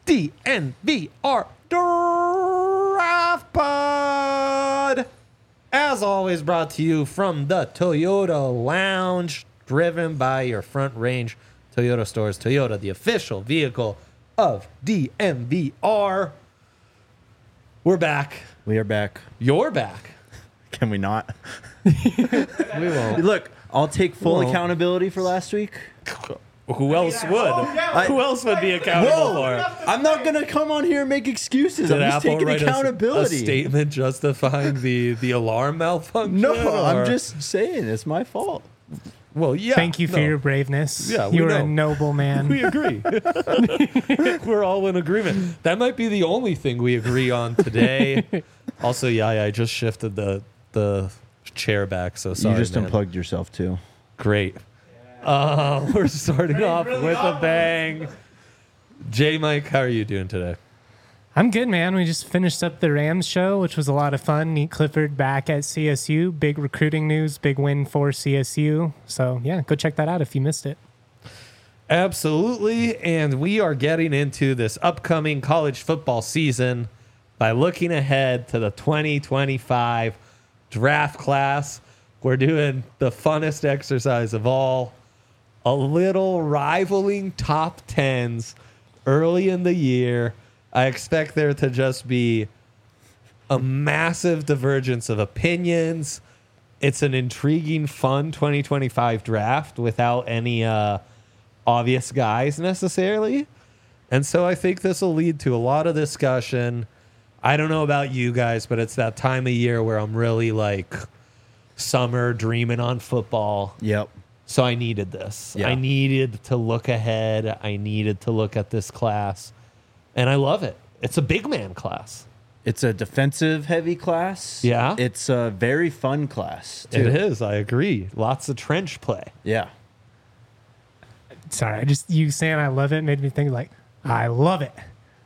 DNVR Draft Pod. As always, brought to you from the Toyota Lounge, driven by your Front Range Toyota stores. Toyota, the official vehicle of DNVR. We're back. We are back. You're back. Can we not? We won't. Look, I'll take full accountability for last week. Who else would? Who else would be accountable for it? I'm not going to come on here and make excuses. Did I'm just Apple taking write accountability. a statement justifying the alarm malfunction? No, or- I'm just saying it's my fault. Well, yeah. Thank you for your braveness. Yeah, we you are know. a noble man. We agree. We're all in agreement. That might be the only thing we agree on today. Also, yeah, I just shifted the chair back, so sorry, You just man. unplugged yourself too. Great. We're starting off with a bang. J. Mike, how are you doing today? I'm good, man. We just finished up the Rams show, which was a lot of fun. Nate Clifford back at CSU. Big recruiting news, big win for CSU. So, yeah, go check that out if you missed it. Absolutely. And we are getting into this upcoming college football season by looking ahead to the 2025 draft class. We're doing the funnest exercise of all, a little rivaling top 10s early in the year. I expect there to just be a massive divergence of opinions. It's an intriguing, fun 2025 draft without any obvious guys necessarily. And so I think this will lead to a lot of discussion. I don't know about you guys, but it's that time of year where I'm really like summer dreaming on football. Yep. So I needed this. Yeah. I needed to look ahead. I needed to look at this class. And I love it. It's a big man class. It's a defensive heavy class. Yeah. It's a very fun class too. It is. I agree. Lots of trench play. Yeah. Sorry, you saying I love it made me think like, I love it.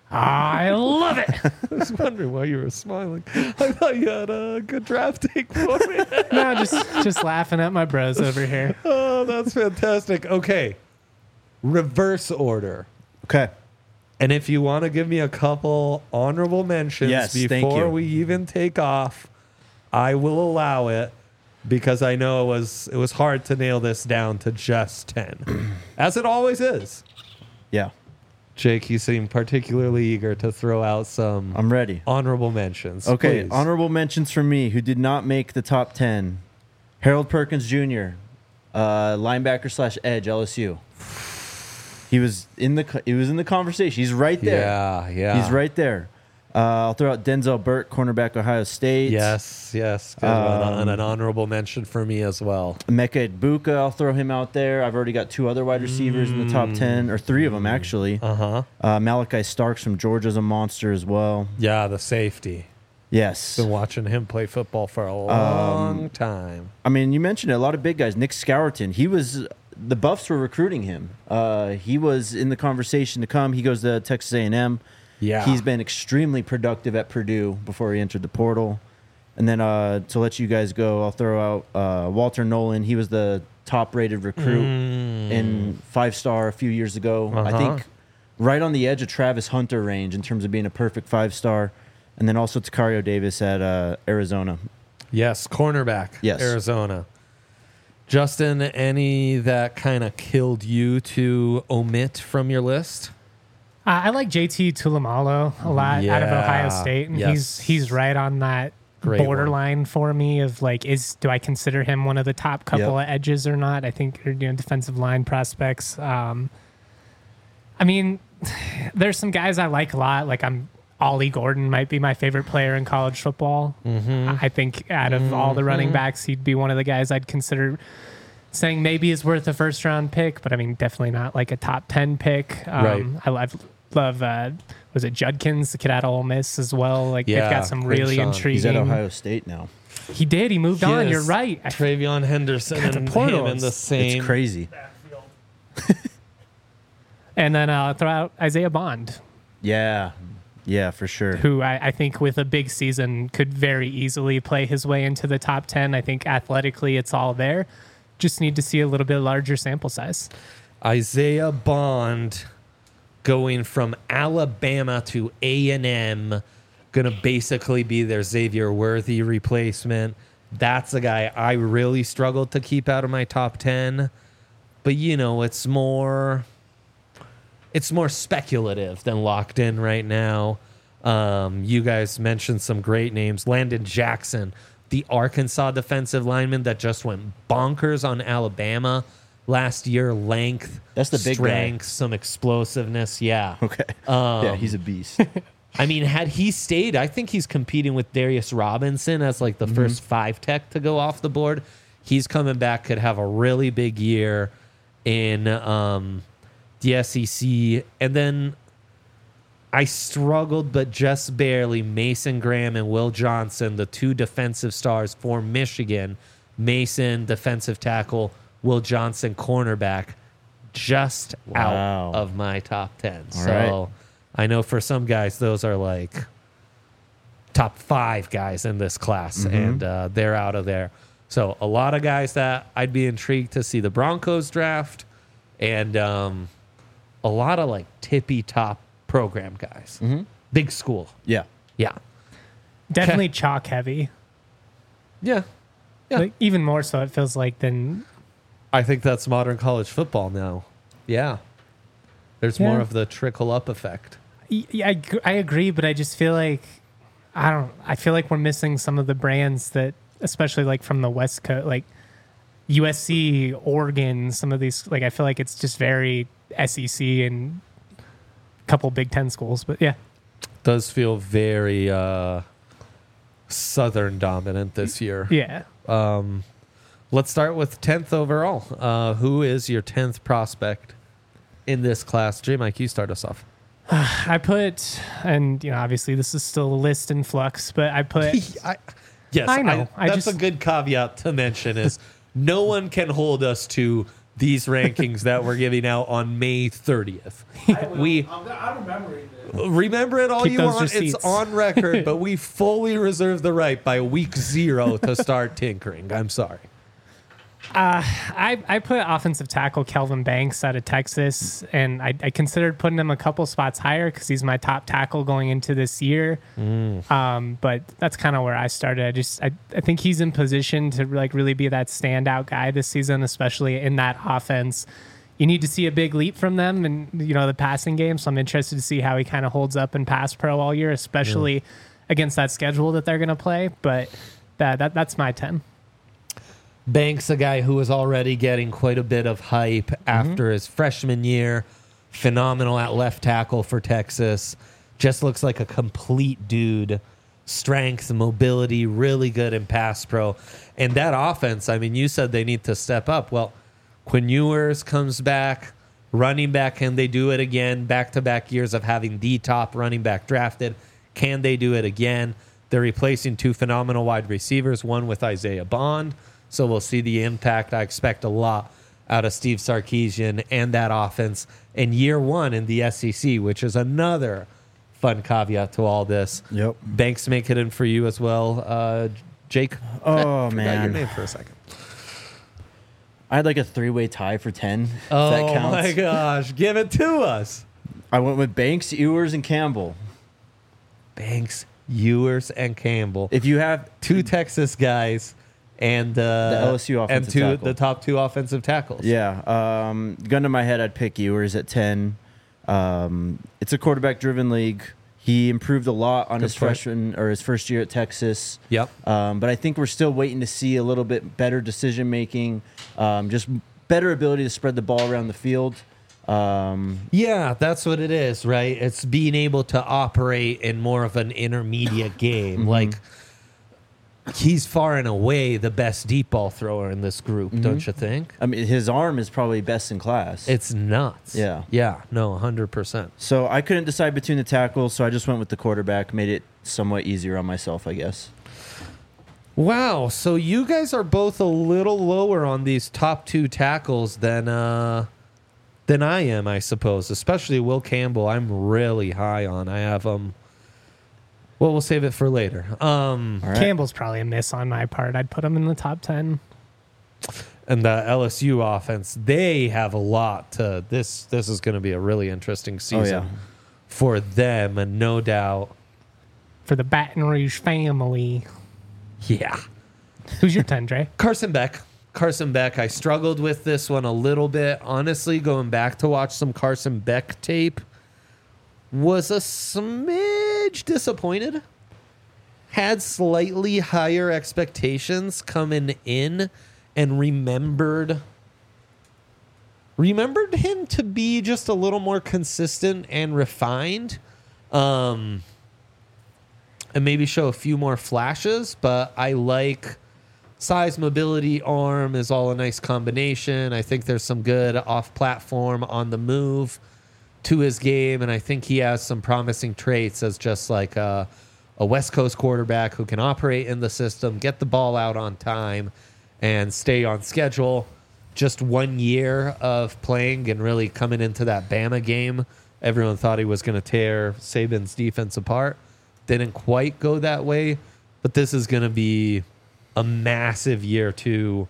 I love it. I was wondering why you were smiling. I thought you had a good draft take for me. No, just laughing at my bros over here. Oh, that's fantastic. Okay. Reverse order. Okay. And if you want to give me a couple honorable mentions Yes, thank before you. we even take off, I will allow it because I know it was hard to nail this down to just 10, as it always is. Yeah. Jake, you seem particularly eager to throw out some I'm ready. honorable mentions. Okay. Please. Honorable mentions for me who did not make the top 10. Harold Perkins Jr., linebacker / edge, LSU. He was in the conversation. He's right there. Yeah. He's right there. I'll throw out Denzel Burke, cornerback, Ohio State. Yes. Good one. And an honorable mention for me as well. Mecca Ibuka, I'll throw him out there. I've already got 2 other wide receivers in the top 10, or 3 of them actually. Malachi Starks from Georgia's a monster as well. Yeah, the safety. Yes. Been watching him play football for a long time. I mean, you mentioned it, a lot of big guys. Nick Scourton, the Buffs were recruiting him. He was in the conversation to come. He goes to Texas A&M. Yeah. He's been extremely productive at Purdue before he entered the portal. And then to let you guys go, I'll throw out Walter Nolan. He was the top-rated recruit in 5-star a few years ago. I think right on the edge of Travis Hunter range in terms of being a perfect 5-star. And then also Takario Davis at Arizona. Yes, cornerback. Yes. Arizona. Justin, any that kind of killed you to omit from your list? I like JT Tulamalo a lot out of Ohio State, and Yes. he's right on that Great borderline for me of like, do I consider him one of the top couple of edges or not? I think defensive line prospects. I mean, there's some guys I like a lot. Like Ollie Gordon might be my favorite player in college football. I think out of all the running backs, he'd be one of the guys I'd consider saying maybe is worth a first round pick, but I mean, definitely not like a top 10 pick. Right. I love was it Judkins, the kid out of Ole Miss as well? Like they've got some really Crenshaw. intriguing. He's at Ohio State now. He did. He moved on. Yes. You're right. Travion Henderson God, the and portal him in the is- same. It's crazy. And then I'll throw out Isaiah Bond, Yeah, for sure. who I think with a big season could very easily play his way into the top 10. I think athletically it's all there. Just need to see a little bit larger sample size. Isaiah Bond going from Alabama to A&M, going to basically be their Xavier Worthy replacement. That's a guy I really struggled to keep out of my top 10. But, it's more speculative than locked in right now. You guys mentioned some great names. Landon Jackson, the Arkansas defensive lineman that just went bonkers on Alabama last year. Length, that's the big strength, guy. Some explosiveness. Yeah. Okay. Yeah, he's a beast. I mean, had he stayed, I think he's competing with Darius Robinson as like the first 5 tech to go off the board. He's coming back, could have a really big year in the SEC. And then I struggled, but just barely. Mason Graham and Will Johnson, the 2 defensive stars for Michigan. Mason, defensive tackle. Will Johnson, cornerback. Just out of my top 10. All right. I know for some guys, those are like top 5 guys in this class, and they're out of there. So a lot of guys that I'd be intrigued to see the Broncos draft, and a lot of like tippy top program guys. Big school. Yeah. Yeah. Definitely chalk heavy. Yeah. Yeah. Like, even more so, it feels like, than. I think that's modern college football now. Yeah. There's more of the trickle up effect. Yeah, I agree, but I just feel like I feel like we're missing some of the brands that, especially like from the West Coast, like USC, Oregon, some of these, like I feel like it's just very SEC and a couple Big Ten schools, but yeah. Does feel very Southern dominant this year. Yeah. Let's start with 10th overall. Who is your 10th prospect in this class? J-Mike, you start us off. I put, and obviously this is still a list in flux, but I put. Yes, I know. That's a good caveat to mention is no one can hold us to these rankings that we're giving out on May 30th. I'm remembering it. Remember it all Keep you those want. receipts. It's on record, but we fully reserve the right by week 0 to start tinkering. I'm sorry. I put offensive tackle Kelvin Banks out of Texas, and I considered putting him a couple spots higher because he's my top tackle going into this year. But that's kind of where I started. I think he's in position to like really be that standout guy this season, especially in that offense. You need to see a big leap from them and the passing game. So I'm interested to see how he kind of holds up in pass pro all year, especially against that schedule that they're going to play. But that's my 10. Banks, a guy who was already getting quite a bit of hype after his freshman year. Phenomenal at left tackle for Texas. Just looks like a complete dude. Strength, mobility, really good in pass pro. And that offense, I mean, you said they need to step up. Well, Quinn Ewers comes back, running back. Can they do it again? Back-to-back years of having the top running back drafted. Can they do it again? They're replacing 2 phenomenal wide receivers, one with Isaiah Bond. So we'll see the impact. I expect a lot out of Steve Sarkisian and that offense in year 1 in the SEC, which is another fun caveat to all this. Yep. Banks make it in for you as well. Jake? Oh, Forgot man. your name for a second. I had like a 3-way tie for 10. If Oh, that counts. my gosh. Give it to us. I went with Banks, Ewers, and Campbell. Banks, Ewers, and Campbell. If you have 2 Texas guys. And the LSU offensive tackle. The top 2 offensive tackles. Yeah. Gun to my head, I'd pick Ewers at 10. It's a quarterback-driven league. He improved a lot on his freshman or his first year at Texas. Yep. But I think we're still waiting to see a little bit better decision-making, just better ability to spread the ball around the field. Yeah, that's what it is, right? It's being able to operate in more of an intermediate game. Like, he's far and away the best deep ball thrower in this group, don't you think? I mean, his arm is probably best in class. It's nuts. Yeah. Yeah, no, 100%. So I couldn't decide between the tackles, so I just went with the quarterback. Made it somewhat easier on myself, I guess. Wow, so you guys are both a little lower on these top 2 tackles than I am, I suppose. Especially Will Campbell, I'm really high on. I have him. Well, we'll save it for later. All right. Campbell's probably a miss on my part. I'd put him in the top 10. and the LSU offense, they have a lot to this. This is going to be a really interesting season for them, and no doubt. For the Baton Rouge family. Yeah. Who's your 10, Dre? Carson Beck. Carson Beck. I struggled with this one a little bit. Honestly, going back to watch some Carson Beck tape, was a smidge disappointed. Had slightly higher expectations coming in, and remembered him to be just a little more consistent and refined. And maybe show a few more flashes, but I like size, mobility, arm is all a nice combination. I think there's some good off-platform, on the move to his game, and I think he has some promising traits as just like a West Coast quarterback who can operate in the system, get the ball out on time, and stay on schedule. Just 1 year of playing and really coming into that Bama game, everyone thought he was going to tear Saban's defense apart. Didn't quite go that way, but this is going to be a massive year to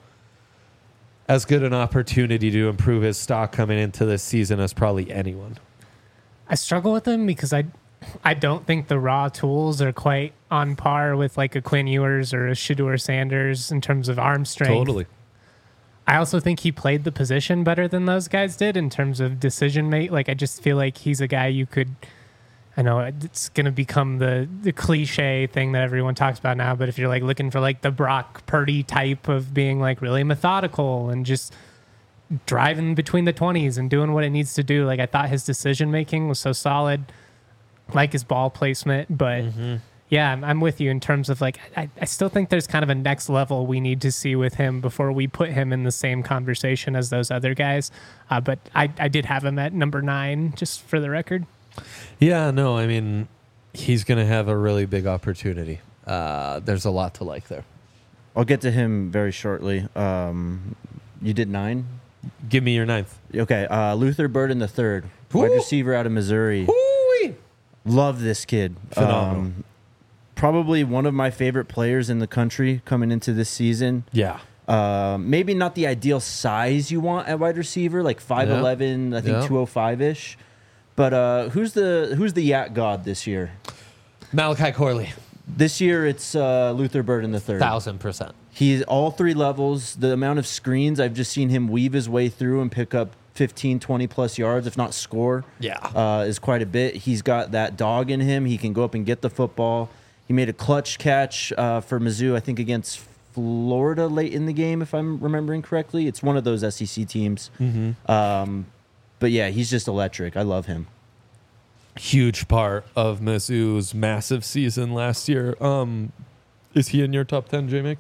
as good an opportunity to improve his stock coming into this season as probably anyone. I struggle with him because I don't think the raw tools are quite on par with like a Quinn Ewers or a Shedeur Sanders in terms of arm strength. Totally. I also think he played the position better than those guys did in terms of decision make. Like, I just feel like he's a guy you could, I know it's going to become the cliche thing that everyone talks about now, but if you're like looking for like the Brock Purdy type of being like really methodical and just driving between the 20s and doing what it needs to do, like I thought his decision making was so solid, like his ball placement. But yeah, I'm with you in terms of like, I still think there's kind of a next level we need to see with him before we put him in the same conversation as those other guys. But I did have him at number 9, just for the record. Yeah, no, I mean, he's going to have a really big opportunity. There's a lot to like there. I'll get to him very shortly. You did 9? Give me your 9th. Okay, Luther Burden the third, wide receiver out of Missouri. Woo-wee. Love this kid. Phenomenal. Probably one of my favorite players in the country coming into this season. Yeah. Maybe not the ideal size you want at wide receiver, like 5'11", I think 205-ish. But who's the Yak God this year? Malachi Corley. This year it's Luther Burden the third. 1,000%. He's all 3 levels. The amount of screens I've just seen him weave his way through and pick up 15, 20 plus yards, if not score, is quite a bit. He's got that dog in him. He can go up and get the football. He made a clutch catch for Mizzou, I think, against Florida late in the game, if I'm remembering correctly. It's one of those SEC teams. But yeah, he's just electric. I love him. Huge part of Mizzou's massive season last year. Is he in your top 10, J-Mick?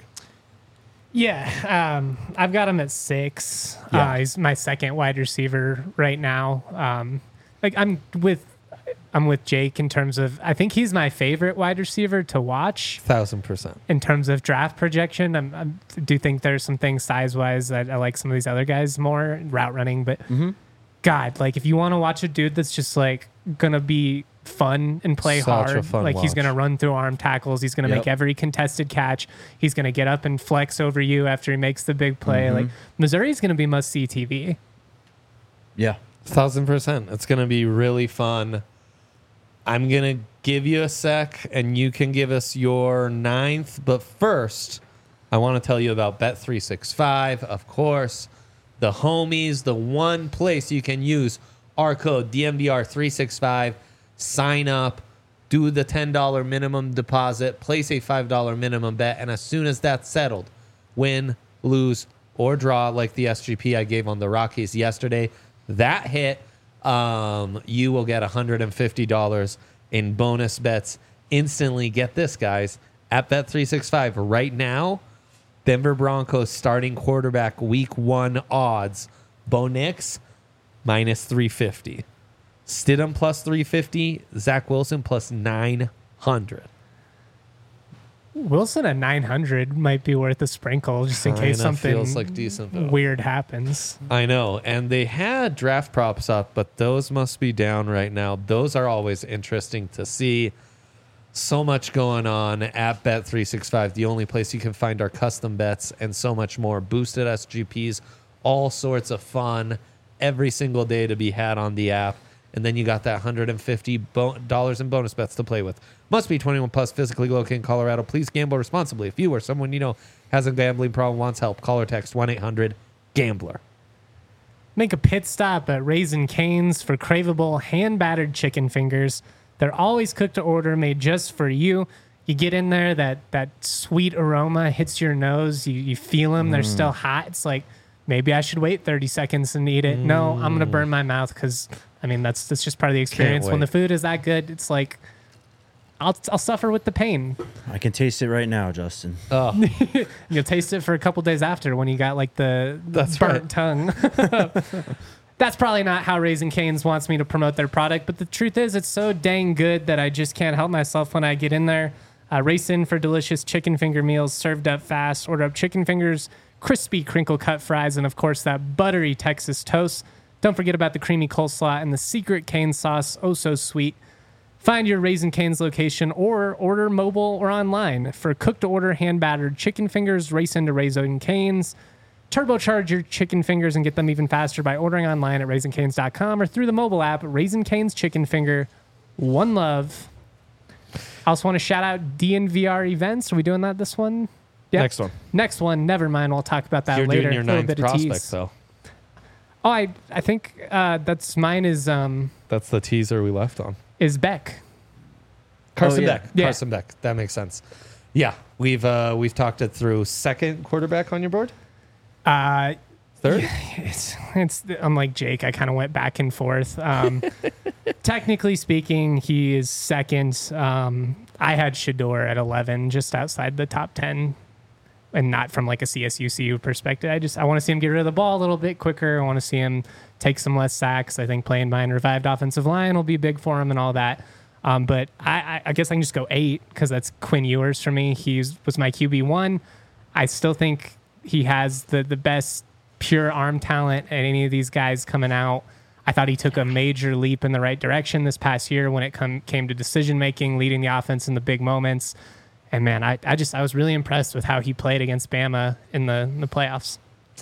Yeah, I've got him at 6. Yeah. He's my second wide receiver right now. Like I'm with Jake in terms of, I think he's my favorite wide receiver to watch. 1,000%. In terms of draft projection, I do think there's some things size-wise that I like some of these other guys more, route running, but God, like if you want to watch a dude that's just like going to be fun and play hard, like he's going to run through arm tackles, he's going to make every contested catch, he's going to get up and flex over you after he makes the big play. Like Missouri's going to be must-see TV. Yeah. 1,000%. It's going to be really fun. I'm going to give you a sec, and you can give us your 9th. But first, I want to tell you about Bet365. Of course, the homies, the one place you can use our code DMVR365. Sign up, do the $10 minimum deposit, place a $5 minimum bet, and as soon as that's settled, win, lose, or draw like the SGP I gave on the Rockies yesterday, that hit, you will get $150 in bonus bets instantly. Get this, guys, at Bet365 right now. Denver Broncos starting quarterback week 1 odds. Bo Nix minus 350. Stidham plus 350. Zach Wilson plus 900. Wilson at 900 might be worth a sprinkle just in case something feels like decent weird happens. I know. And they had draft props up, but those must be down right now. Those are always interesting to see. So much going on at Bet365, the only place you can find our custom bets and so much more. Boosted SGPs, all sorts of fun every single day to be had on the app. And then you got that $150 in bonus bets to play with. Must be 21 plus, physically located in Colorado. Please gamble responsibly. If you or someone you know has a gambling problem, wants help, call or text 1-800-GAMBLER. Make a pit stop at Raising Cane's for craveable hand-battered chicken fingers. They're always cooked to order, made just for you. You get in there, that sweet aroma hits your nose. You feel them. They're still hot. It's like, maybe I should wait 30 seconds and eat it. No, I'm going to burn my mouth because, I mean, that's just part of the experience. When the food is that good, it's like, I'll suffer with the pain. I can taste it right now, Justin. Oh, You'll taste it for a couple days after when you got like the That's burnt right. tongue. That's probably not how Raising Cane's wants me to promote their product, but the truth is it's so dang good that I just can't help myself when I get in there. Race in for delicious chicken finger meals served up fast. Order up chicken fingers, crispy crinkle cut fries, and of course that buttery Texas toast. Don't forget about the creamy coleslaw and the secret cane sauce, oh so sweet. Find your Raising Cane's location or order mobile or online. For cook-to-order hand-battered chicken fingers, race into Raising Cane's. Turbocharge your chicken fingers and get them even faster by ordering online at RaisingCanes.com or through the mobile app, Raising Cane's Chicken Finger. One love. I also want to shout out DNVR events. Are we doing that this one? Yep. next one. Next one. Never mind. We'll talk about that You're later. doing your A little ninth bit of prospect, tease. though. Oh, I think that's mine is That's the teaser we left on. Beck. Carson yeah. Beck. Yeah. Carson Beck. That makes sense. Yeah, we've talked it through. Second quarterback on your board? Third? It's unlike Jake. I kind of went back and forth. Technically speaking, he is second. I had Shador at 11, just outside the top 10, and not from like a CSUCU perspective. I want to see him get rid of the ball a little bit quicker. I want to see him take some less sacks. I think playing behind revived offensive line will be big for him and all that. But I guess I can just go 8 because that's Quinn Ewers for me. He was my QB1. I still think he has the best pure arm talent at any of these guys coming out. I thought he took a major leap in the right direction this past year when it came to decision making, leading the offense in the big moments. And man, I was really impressed with how he played against Bama in the playoffs.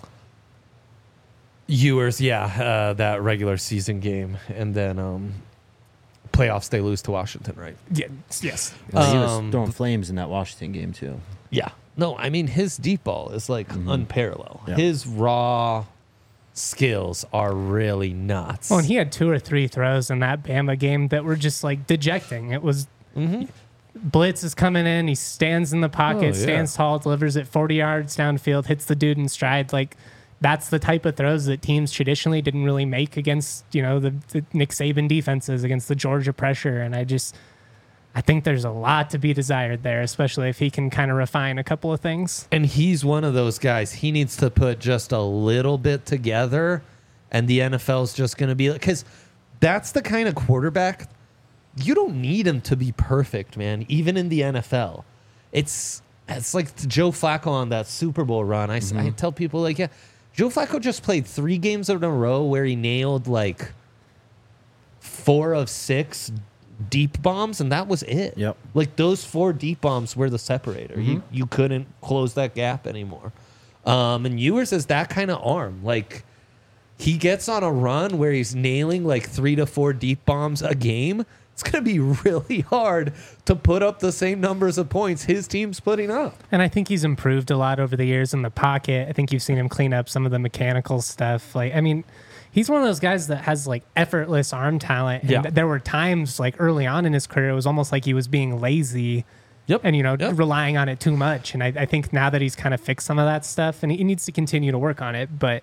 Ewers, yeah, that regular season game, and then playoffs they lose to Washington, right? Yeah, yes. He was throwing flames in that Washington game, too. Yeah. No, I mean his deep ball is like unparalleled. Yeah. His raw skills are really nuts. Well, and he had 2 or 3 throws in that Bama game that were just like dejecting. It was blitz is coming in. He stands in the pocket, Oh, yeah. stands tall, delivers it 40 yards downfield, hits the dude in stride. Like that's the type of throws that teams traditionally didn't really make against, the Nick Saban defenses, against the Georgia pressure. And I think there's a lot to be desired there, especially if he can kind of refine a couple of things. And he's one of those guys. He needs to put just a little bit together, and the NFL's just going to be like, because that's the kind of quarterback you don't need him to be perfect, man. Even in the NFL, it's like Joe Flacco on that Super Bowl run. I tell people like, yeah, Joe Flacco just played 3 games in a row where he nailed like 4 of 6 deep bombs, and that was it. Yep. Like those 4 deep bombs were the separator. You couldn't close that gap anymore. And Ewers is that kind of arm. Like he gets on a run where he's nailing like 3 to 4 deep bombs a game. It's going to be really hard to put up the same numbers of points his team's putting up. And I think he's improved a lot over the years in the pocket. I think you've seen him clean up some of the mechanical stuff. Like, I mean, he's one of those guys that has like effortless arm talent. And Yeah. there were times like early on in his career, it was almost like he was being lazy Yep. and, Yep. relying on it too much. And I think now that he's kind of fixed some of that stuff, and he needs to continue to work on it, but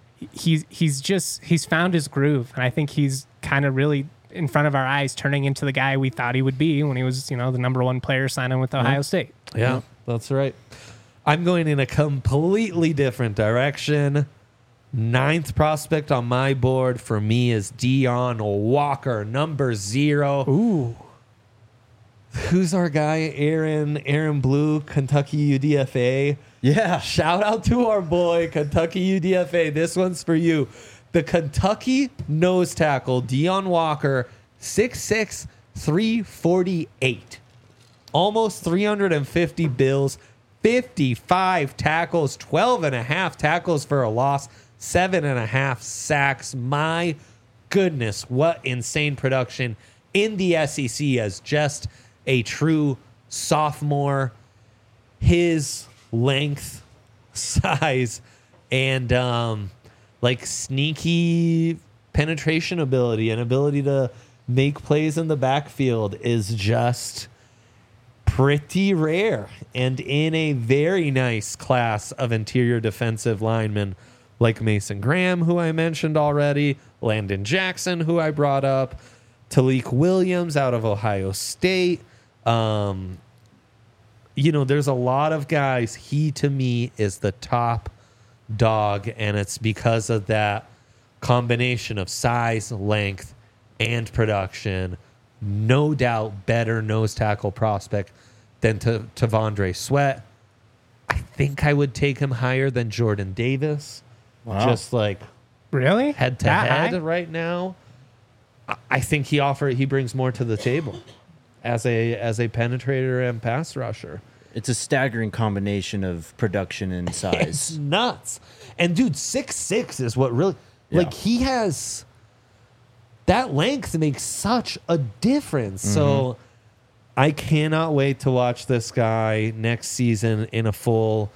he's found his groove. And I think he's kind of really in front of our eyes turning into the guy we thought he would be when he was, the number 1 player signing with Ohio State. Yeah, that's right. I'm going in a completely different direction. 9th prospect on my board for me is Deion Walker, number 0. Ooh. Who's our guy? Aaron Blue, Kentucky UDFA. Yeah. Shout out to our boy, Kentucky UDFA. This one's for you. The Kentucky nose tackle, Deion Walker, 6'6", 348. almost 350 bills, 55 tackles, 12.5 tackles for a loss, 7.5 sacks. My goodness, what insane production in the SEC as just a true sophomore. His length, size, and like sneaky penetration ability and ability to make plays in the backfield is just pretty rare, and in a very nice class of interior defensive linemen like Mason Graham, who I mentioned already, Landon Jackson, who I brought up, Talik Williams out of Ohio State. There's a lot of guys. He, to me, is the top dog, and it's because of that combination of size, length, and production. No doubt better nose tackle prospect than Tavondre Sweat. I think I would take him higher than Jordan Davis. Wow. Just like Really? head to That head high? right now. I think he brings more to the table as a penetrator and pass rusher. It's a staggering combination of production and It's size. nuts. And dude, 6'6" is what really Yeah. he has that length makes such a difference. So I cannot wait to watch this guy next season in a full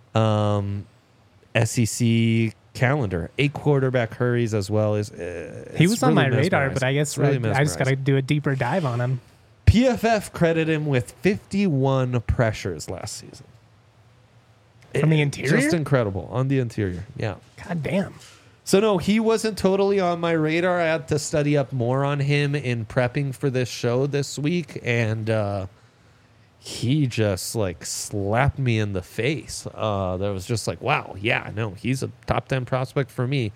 SEC calendar. 8 quarterback hurries as well as He was on my radar, but I guess I just got to do a deeper dive on him. PFF credited him with 51 pressures last season. From the interior? Just incredible on the interior. Yeah. God damn. So no, he wasn't totally on my radar. I had to study up more on him in prepping for this show this week, and he just like slapped me in the face. That was just like, wow, yeah, no, he's a top 10 prospect for me.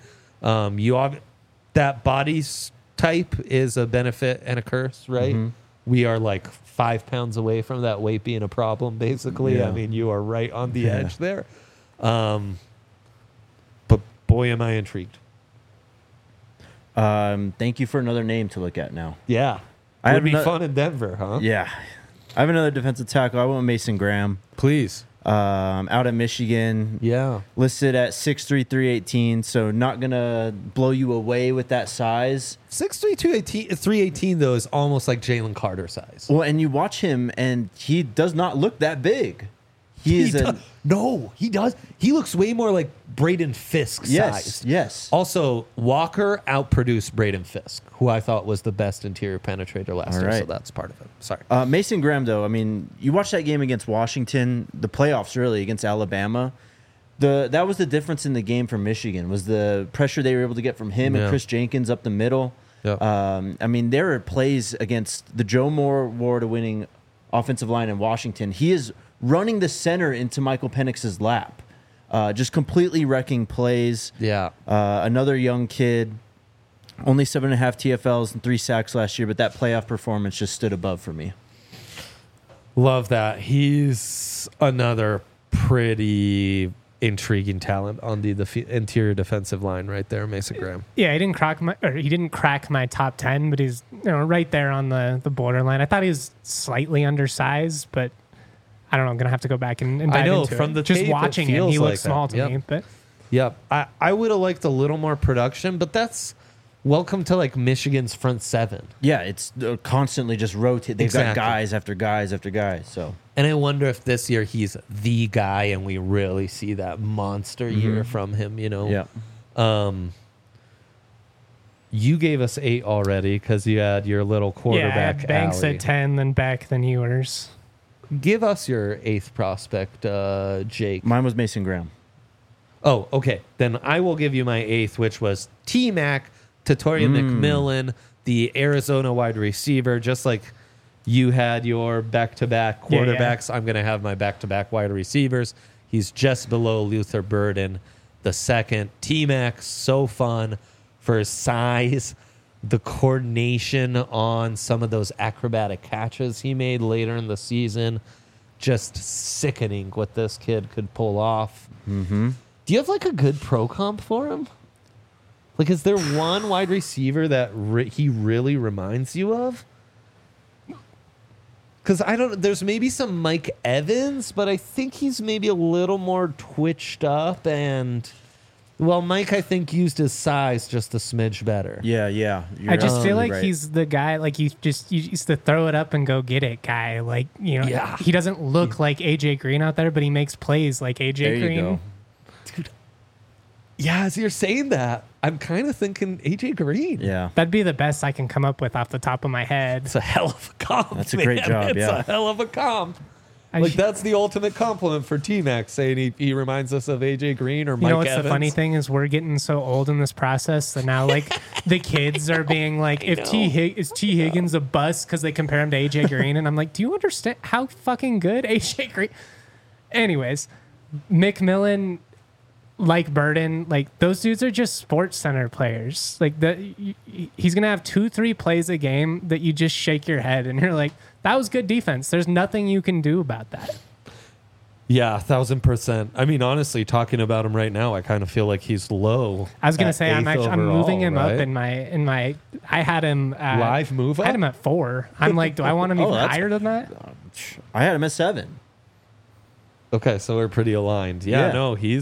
That body type is a benefit and a curse, right? We are like 5 pounds away from that weight being a problem, basically. Yeah. I mean, you are right on the edge there. But boy, am I intrigued. Thank you for another name to look at now. Yeah. I Would have be no- fun in Denver, huh? Yeah. I have another defensive tackle. I went with Mason Graham. Please. Out at Michigan. Yeah. Listed at 6'3", 318, so not going to blow you away with that size. 6'3", 318, though, is almost like Jalen Carter size. Well, and you watch him, and he does not look that big. He is No, he does. He looks way more like Braden Fisk yes, size. yes. Also, Walker outproduced Braden Fisk, who I thought was the best interior penetrator last All year, so right. that's part of it. Sorry. Mason Graham, though, I mean, you watch that game against Washington, the playoffs really against Alabama. That was the difference in the game for Michigan was the pressure they were able to get from him Yeah. and Chris Jenkins up the middle. Yeah. I mean, there are plays against the Joe Moore award-winning offensive line in Washington. He is running the center into Michael Penix's lap, just completely wrecking plays. Yeah. Another young kid, only 7.5 TFLs and 3 sacks last year, but that playoff performance just stood above for me. Love that. He's another pretty intriguing talent on the interior defensive line right there, Mason Graham. Yeah, he didn't crack my top 10, but he's right there on the borderline. I thought he was slightly undersized, but I don't know. I'm gonna have to go back and dive I know, into from it. the Just tape, it watching him, feels he like looks small that. to Yep. me. But Yep. I would have liked a little more production, but that's welcome to like Michigan's front seven. Yeah, it's constantly just rotate. They've got Exactly. guys after guys after guys. So And I wonder if this year he's the guy and we really see that monster year from him, yeah, You gave us 8 already because you had your little yeah, I quarterback had Banks alley. at 10, then Beck, then Ewers. Give us your 8th prospect, Jake. mine was Mason Graham. Oh, okay. Then I will give you my 8th, which was T-Mac, Tatoria McMillan, the Arizona wide receiver. Just like you had your back-to-back Yeah, quarterbacks, I'm going to have my back-to-back wide receivers. He's just below Luther Burden, the second. T-Mac, so fun for his size, the coordination on some of those acrobatic catches he made later in the season. Just sickening what this kid could pull off. Mm-hmm. Do you have like a good pro comp for him? Like, is there one wide receiver that he really reminds you of? Because I don't. There's maybe some Mike Evans, but I think he's maybe a little more twitched up and. Well, Mike, I think, used his size just a smidge better. Yeah. You're I just feel absolutely like right. he's the guy, like you used to throw it up and go get it guy. Like, Yeah. he doesn't look like AJ Green out there, but he makes plays like AJ There you Green. go. Yeah, as you're saying that, I'm kind of thinking AJ Green. Yeah. That'd be the best I can come up with off the top of my head. It's a hell of a comp. That's a great man. job, It's yeah. a hell of a comp. I Like sh- that's the ultimate compliment for T-Mac, saying he reminds us of AJ Green or Mike you know what's Evans. the funny thing is we're getting so old in this process that now like the kids are being like, if is T Higgins a bust because they compare him to AJ Green, and I'm like, do you understand how fucking good AJ Green? Anyways, McMillan, like Burden, like those dudes are just Sports Center players. Like he's gonna have 2-3 plays a game that you just shake your head and you're like, that was good defense. There's nothing you can do about that. Yeah, 1,000%. I mean, honestly, talking about him right now, I kind of feel like he's low. I was gonna at say I'm eighth moving him overall, up right? in my. I had him Live move I had up? him at 4. I'm like, do I want him Oh, even that's- higher than that? I had him at 7. Okay, so we're pretty aligned. Yeah, Yeah. no, he's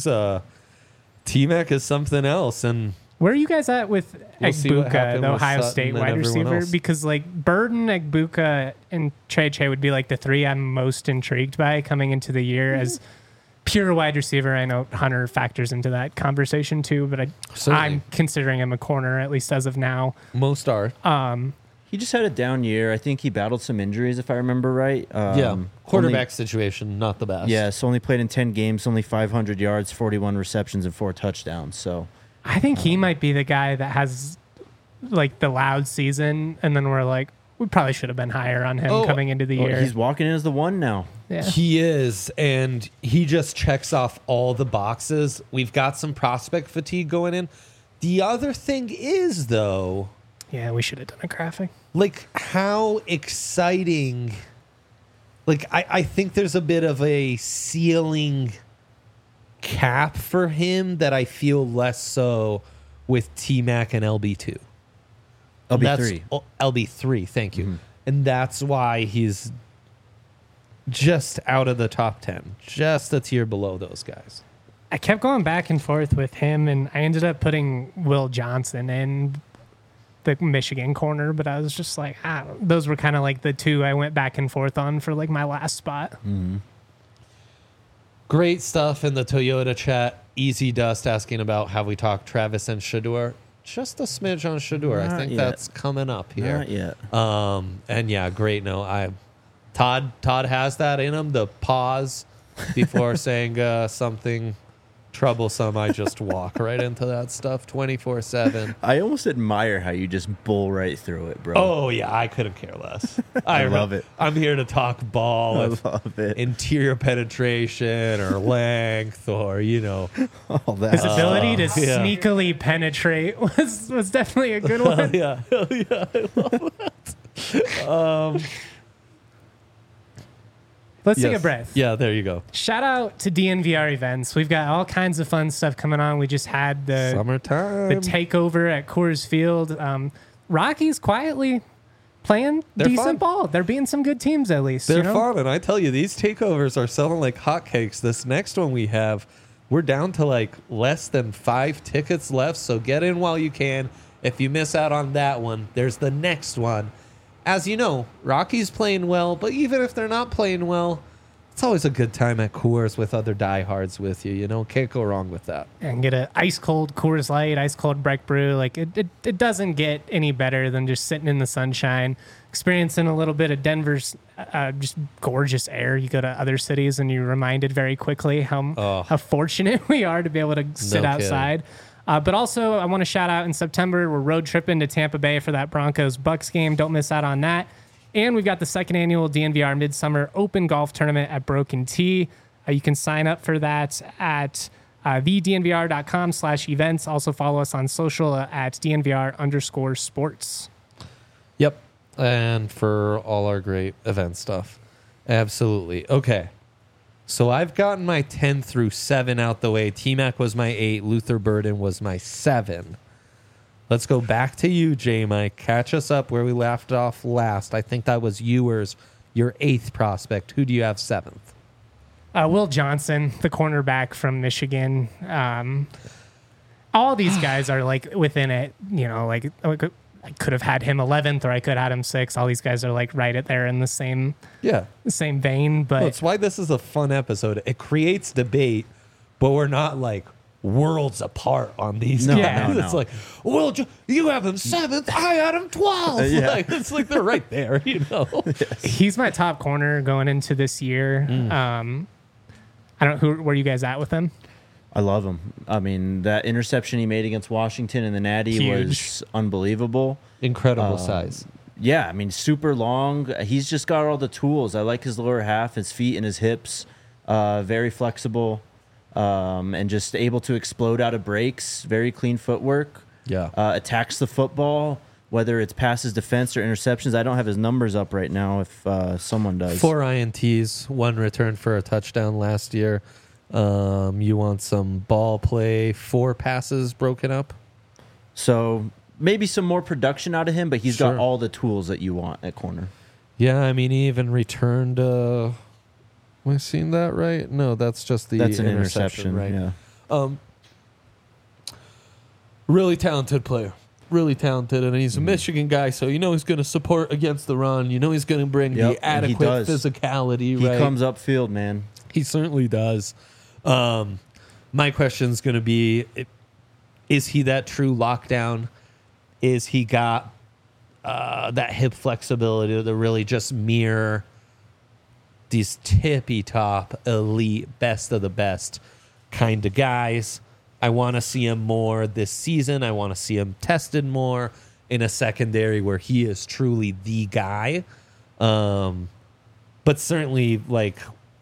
T-Mac is something else, and Where are you guys at with We'll see what Egbuka, happened the with Ohio Sutton State and wide everyone receiver? else. Because like Burden, Egbuka, and Che would be like the 3 I'm most intrigued by coming into the year as pure wide receiver. I know Hunter factors into that conversation too, but Certainly. I'm considering him a corner at least as of now. most are. He just had a down year. I think he battled some injuries, if I remember right. Quarterback situation, not the best. Yes, only played in 10 games, only 500 yards, 41 receptions, and 4 touchdowns. So I think he might be the guy that has like the loud season, and then we're like, we probably should have been higher on him coming into the year. he's walking in as the one now. Yeah. He is, and he just checks off all the boxes. We've got some prospect fatigue going in. The other thing is, though, Yeah, we should have done a graphic. like how exciting. Like, I think there's a bit of a ceiling cap for him that I feel less so with T-Mac and LB2. LB3. LB3, thank you. And that's why he's just out of the top 10, just a tier below those guys. I kept going back and forth with him, and I ended up putting Will Johnson in the Michigan corner, but I was just like, those were kind of like the 2 I went back and forth on for like my last spot. Great stuff in the Toyota chat. Easy Dust asking about have we talked Travis and Shador. Just a smidge on Shador. I Not think yet. that's coming up here. Not yet. And yeah, great. No, Todd has that in him. The pause before saying something troublesome. I just walk right into that stuff 24/7. I almost admire how you just bull right through it, bro. Oh yeah, I couldn't care less. I love it. I'm here to talk ball, I with love it. interior penetration or length or All that. His ability to yeah. sneakily penetrate was definitely a good one. yeah, hell yeah, I love that. Let's take Yes. a breath. Yeah, there you go. Shout out to DNVR events. We've got all kinds of fun stuff coming on. We just had the Summertime. takeover at Coors Field. Rockies quietly playing They're decent fun. ball. They're beating some good teams at least. They're you know? fun, and I tell you, these takeovers are selling like hotcakes. This next one we have, we're down to like less than 5 tickets left, so get in while you can. If you miss out on that one, there's the next one. As you know, Rockies playing well, but even if they're not playing well, it's always a good time at Coors with other diehards with you. You know, can't go wrong with that. And get a ice cold Coors Light, ice cold Breck Brew. Like it doesn't get any better than just sitting in the sunshine, experiencing a little bit of Denver's just gorgeous air. You go to other cities and you're reminded very quickly how fortunate we are to be able to sit No outside. But also, I want to shout out in September, we're road tripping to Tampa Bay for that Broncos-Bucks game. Don't miss out on that. And we've got the second annual DNVR Midsummer Open Golf Tournament at Broken Tee. You can sign up for that at thednvr.com/events. Also follow us on social at DNVR_sports. Yep. And for all our great event stuff. Absolutely. Okay. So I've gotten my 10 through 7 out the way. T-Mac was my 8. Luther Burden was my 7. Let's go back to you, J-Mike. Catch us up where we left off last. I think that was Ewers your 8th prospect. Who do you have 7th? Will Johnson, the cornerback from Michigan. All these guys are like within it, like I could have had him 11th or I could have had him 6th. All these guys are like right at there in the same vein. But That's why this is a fun episode. It creates debate, but we're not like worlds apart on these guys. No. It's like, well, you have him 7th, I had him 12th. Yeah. Like, it's like they're right there, he's my top corner going into this year. I don't know, where are you guys at with him? I love him. I mean, that interception he made against Washington in the Natty was unbelievable. Incredible size. Yeah, I mean, super long. He's just got all the tools. I like his lower half, his feet and his hips. Very flexible, and just able to explode out of breaks. Very clean footwork. Yeah. Attacks the football, whether it's passes defense or interceptions. I don't have his numbers up right now if someone does. 4 INTs, 1 return for a touchdown last year. You want some ball play, 4 passes broken up. So maybe some more production out of him, but he's got Sure. all the tools that you want at corner. Yeah, I mean, he even returned. Am I seeing that right? No, that's just the That's an interception, interception, right? yeah. Really talented player. Really talented, and he's a Michigan guy, so he's going to support against the run. He's going to bring Yep, the and he adequate does. physicality, He right? comes upfield, man. He certainly does. My question is going to be, is he that true lockdown? Is he got that hip flexibility to really just mirror these tippy top, elite, best of the best kind of guys? I want to see him more this season. I want to see him tested more in a secondary where he is truly the guy. But certainly, like,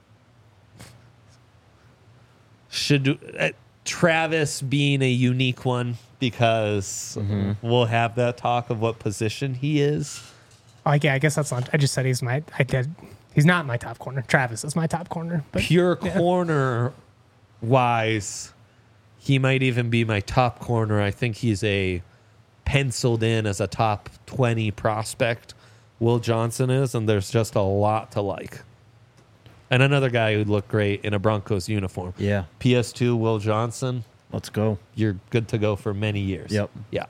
should Travis being a unique one, because we'll have that talk of what position he is. I guess that's not. I just said he's not my top corner. Travis is my top corner. But Pure corner wise, he might even be my top corner. I think he's a penciled in as a top 20 prospect. Will Johnson is, and there's just a lot to like. And another guy who'd look great in a Broncos uniform. Yeah. PS2, Will Johnson, Let's go. you're good to go for many years. Yep. Yeah.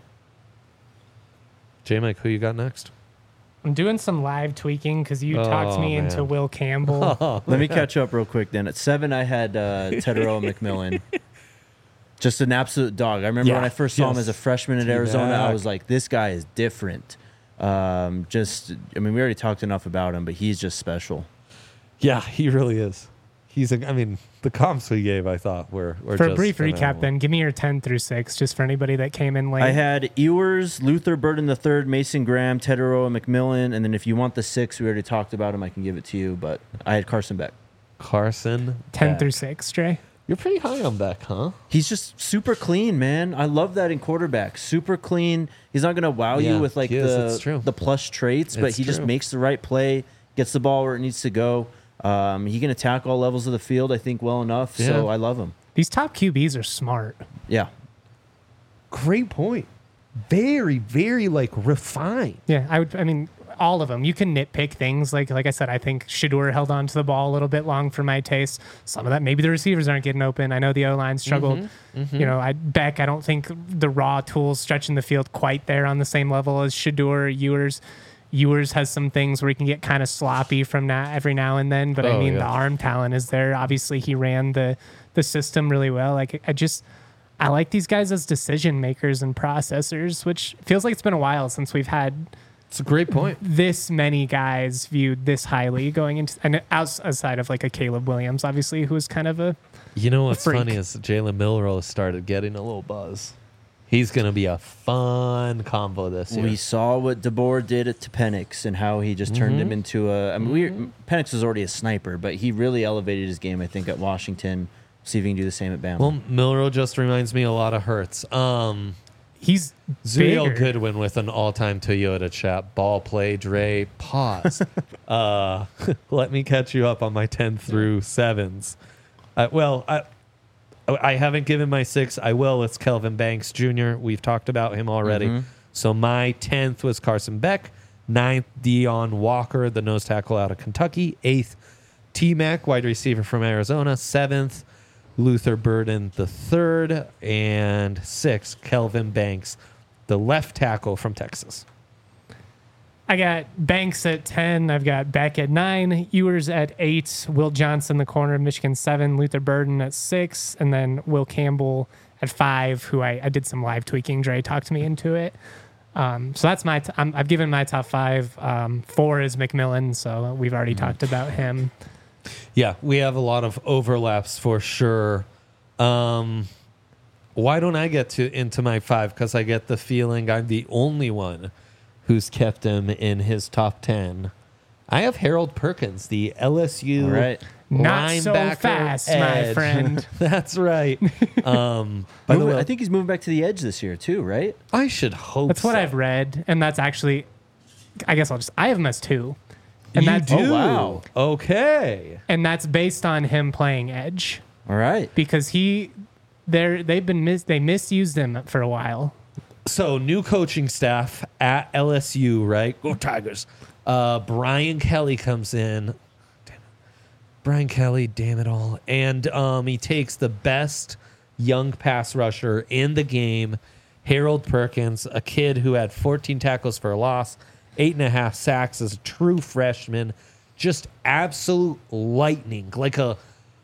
J-Mike, who you got next? I'm doing some live tweaking because you talked me into man. Will Campbell. Let me catch up real quick then. At 7, I had Teteroa McMillan. Just an absolute dog. I remember when I first saw him as a freshman at Arizona, I was like, this guy is different. We already talked enough about him, but he's just special. Yeah, he really is. The comps we gave, I thought, were For just a brief recap, phenomenal. then, give me your 10 through 6, just for anybody that came in late. I had Ewers, Luther Burden III, Mason Graham, Teteroa McMillan, and then if you want the 6, we already talked about him. I can give it to you, but I had Carson Beck. Carson 10 Beck. through 6, Dre. You're pretty high on Beck, huh? He's just super clean, man. I love that in quarterback. Super clean. He's not going to wow Yeah, you with like he is. It's true. the plush traits, but It's he just true. makes the right play, gets the ball where it needs to go. He can attack all levels of the field, I think, well enough. Yeah. So I love him. These top QBs are smart. Yeah. Great point. Very, very refined. Yeah, all of them. You can nitpick things. Like I said, I think Shedeur held on to the ball a little bit long for my taste. Some of that, maybe the receivers aren't getting open. I know the O-line struggled. Beck, I don't think the raw tools stretching the field quite there on the same level as Shedeur, Ewers. Ewers has some things where he can get kind of sloppy from every now and then, but the arm talent is there. Obviously, he ran the system really well. I like these guys as decision makers and processors, which feels like it's been a while since we've had It's a great point. this many guys viewed this highly going into, and outside of like a Caleb Williams, obviously, who was kind of a You know what's freak. funny is Jalen Milroe started getting a little buzz. He's going to be a fun combo this year. We saw what DeBoer did to Penix and how he just turned him into Penix was already a sniper, but he really elevated his game, I think, at Washington. See if he can do the same at Bama. Well, Milroe just reminds me a lot of Hurts. he's Zuriel bigger. Goodwin with an all-time Toyota chat. Ball play, Dre, pause. Let me catch you up on my 10 through 7s. I haven't given my 6. I will. It's Kelvin Banks Jr. We've talked about him already. So my 10th was Carson Beck. Ninth, Dion Walker, the nose tackle out of Kentucky. Eighth, T-Mac, wide receiver from Arizona. Seventh, Luther Burden the third. And sixth, Kelvin Banks, the left tackle from Texas. I got Banks at 10. I've got Beck at 9. Ewers at 8. Will Johnson, the corner of Michigan, 7. Luther Burden at 6. And then Will Campbell at 5, who I did some live tweaking. Dre talked me into it. So that's my I've given my top 5. 4 is McMillan, so we've already talked about him. Yeah, we have a lot of overlaps for sure. Why don't I get into my 5? Because I get the feeling I'm the only one who's kept him in his top 10. I have Harold Perkins, the LSU Right. Not so linebacker fast, my edge. friend. That's right. By the way, I think he's moving back to the edge this year too, right? I should hope That's what so. I've read, and that's actually, I guess I have him as 2. And You that's, do? Oh, wow. Okay. And that's based on him playing edge All right. because they misused him for a while. So, new coaching staff at LSU, right? Go Tigers. Brian Kelly comes in. Damn it. Brian Kelly, damn it all. And he takes the best young pass rusher in the game, Harold Perkins, a kid who had 14 tackles for a loss, 8.5 sacks as a true freshman. Just absolute lightning, like a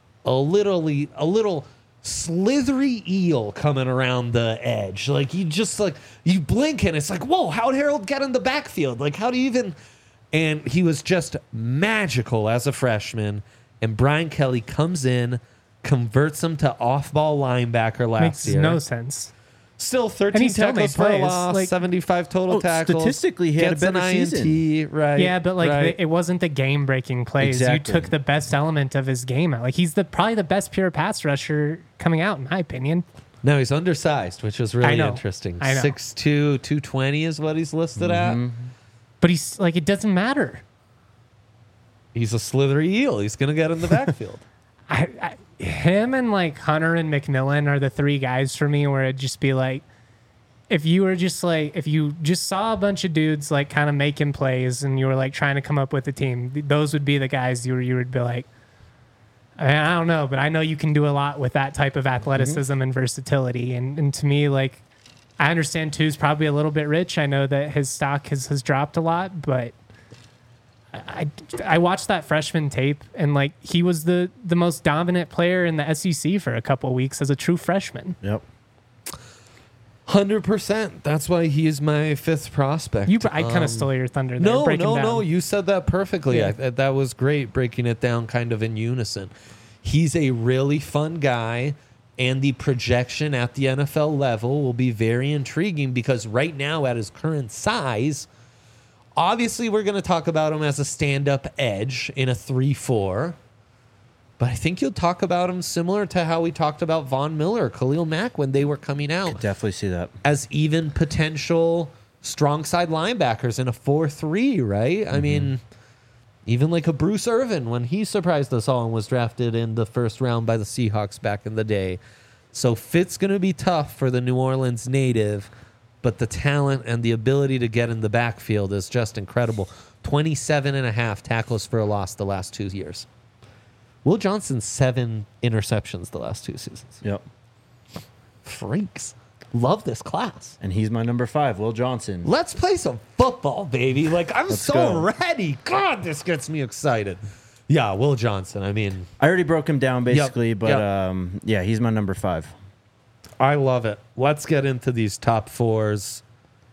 little slithery eel coming around the edge. Like you blink and it's like, whoa, how'd Harold get in the backfield? Like, how do you even? And he was just magical as a freshman. And Brian Kelly comes in, converts him to off-ball linebacker last Makes year. no sense. Still And 13 he still tackles made for a plays, loss, like- 75 total tackles. Statistically, he had a gets an better INT, season. right? Yeah, but right. it wasn't the game-breaking plays. Exactly. You took the best element of his game out. Like he's probably the best pure pass rusher coming out, in my opinion. No, he's undersized, which is I really know. interesting. I know. 6'2", 220 is what he's listed at. But he's like, it doesn't matter. He's a slithery eel. He's going to get in the backfield. Him and like Hunter and McMillan are the 3 guys for me where it'd just be like, if you just saw a bunch of dudes like kind of making plays and you were like trying to come up with a team, those would be the guys you would be like, I don't know, but I know you can do a lot with that type of athleticism and versatility. And to me, like, I understand 2's probably a little bit rich. I know that his stock has dropped a lot, but I watched that freshman tape and like he was the most dominant player in the SEC for a couple of weeks as a true freshman. Yep. 100%. That's why he is my 5th prospect. I kind of stole your thunder there. No, breaking down. no. You said that perfectly. Yeah. That was great, breaking it down kind of in unison. He's a really fun guy, and the projection at the NFL level will be very intriguing because right now, at his current size, obviously we're going to talk about him as a stand-up edge in a 3-4. But I think you'll talk about him similar to how we talked about Von Miller, Khalil Mack when they were coming out Definitely see that. as even potential strong side linebackers in a 4-3, right? I mean, even like a Bruce Irvin when he surprised us all and was drafted in the first round by the Seahawks back in the day. So fit's going to be tough for the New Orleans native, but the talent and the ability to get in the backfield is just incredible. 27.5 tackles for a loss the last 2 years. Will Johnson, 7 interceptions the last 2 seasons. Yep. Freaks. Love this class. And he's my number 5, Will Johnson. Let's play some football, baby. Like, I'm Let's so go. ready. God, this gets me excited. Yeah, Will Johnson. I mean, I already broke him down basically, but yep. yeah, he's my number 5. I love it. Let's get into these top 4s.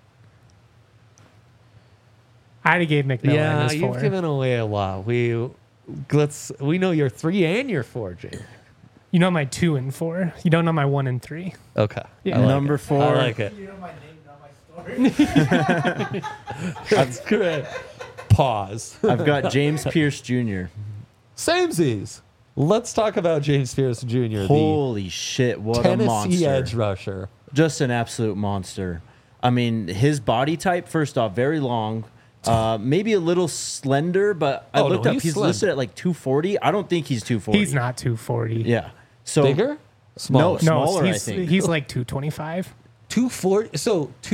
I already gave McMillan Yeah, his 4. you've given away a lot. We know your 3 and your 4, Jake. You know my 2 and 4. You don't know my 1 and 3. Okay. Yeah. I like Number it. 4. I like it. You know my name, not my story. That's good. Pause. I've got James Pierce Jr. Samesies. Let's talk about James Pierce Jr., Holy shit, what the a Tennessee monster. edge rusher. Just an absolute monster. I mean, his body type, first off, very long. Maybe a little slender, but I Oh, no, looked up. he's He's slim. listed at like 240. I don't think he's 240. He's not 240. Yeah. So Bigger? Smaller? No, No, smaller, I he's think. he's like 225. 240. So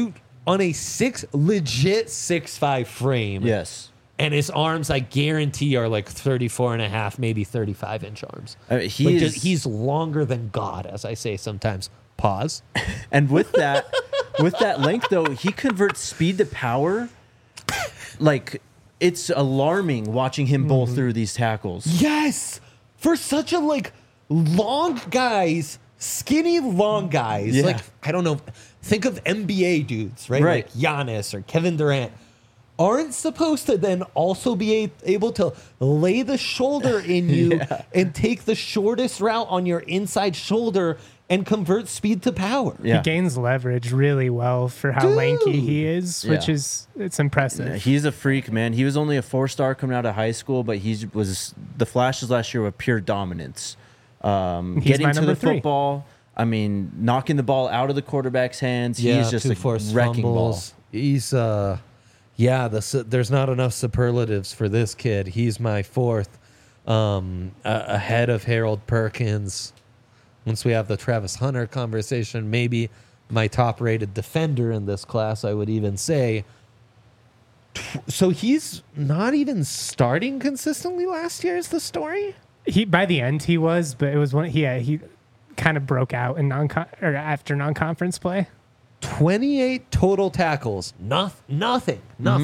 on a legit 6'5" frame. Yes. And his arms, I guarantee, are like 34 and a half, maybe 35-inch arms. He's longer than God, as I say sometimes. Pause. And with that length, though, he converts speed to power. Like, it's alarming watching him bowl through these tackles. Yes! For such a, like, long guys, skinny long guys. Yeah. Like, I don't know. Think of NBA dudes, right? Right. Like Giannis or Kevin Durant. Aren't supposed to then also be able to lay the shoulder in you and take the shortest route on your inside shoulder and convert speed to power. Yeah. He gains leverage really well for how lanky he is, which is it's impressive. Yeah, he's a freak, man. He was only a 4-star coming out of high school, but he was the flashes last year were pure dominance. Getting to the football, I mean, knocking the ball out of the quarterback's hands. He's just a wrecking fumbles. ball. He's there's not enough superlatives for this kid. He's my fourth, ahead of Harold Perkins. Once we have the Travis Hunter conversation, maybe my top-rated defender in this class, I would even say. So he's not even starting consistently last year is the story? He by the end he was, but it was when he kind of broke out in after non-conference play. 28 total tackles. Nothing.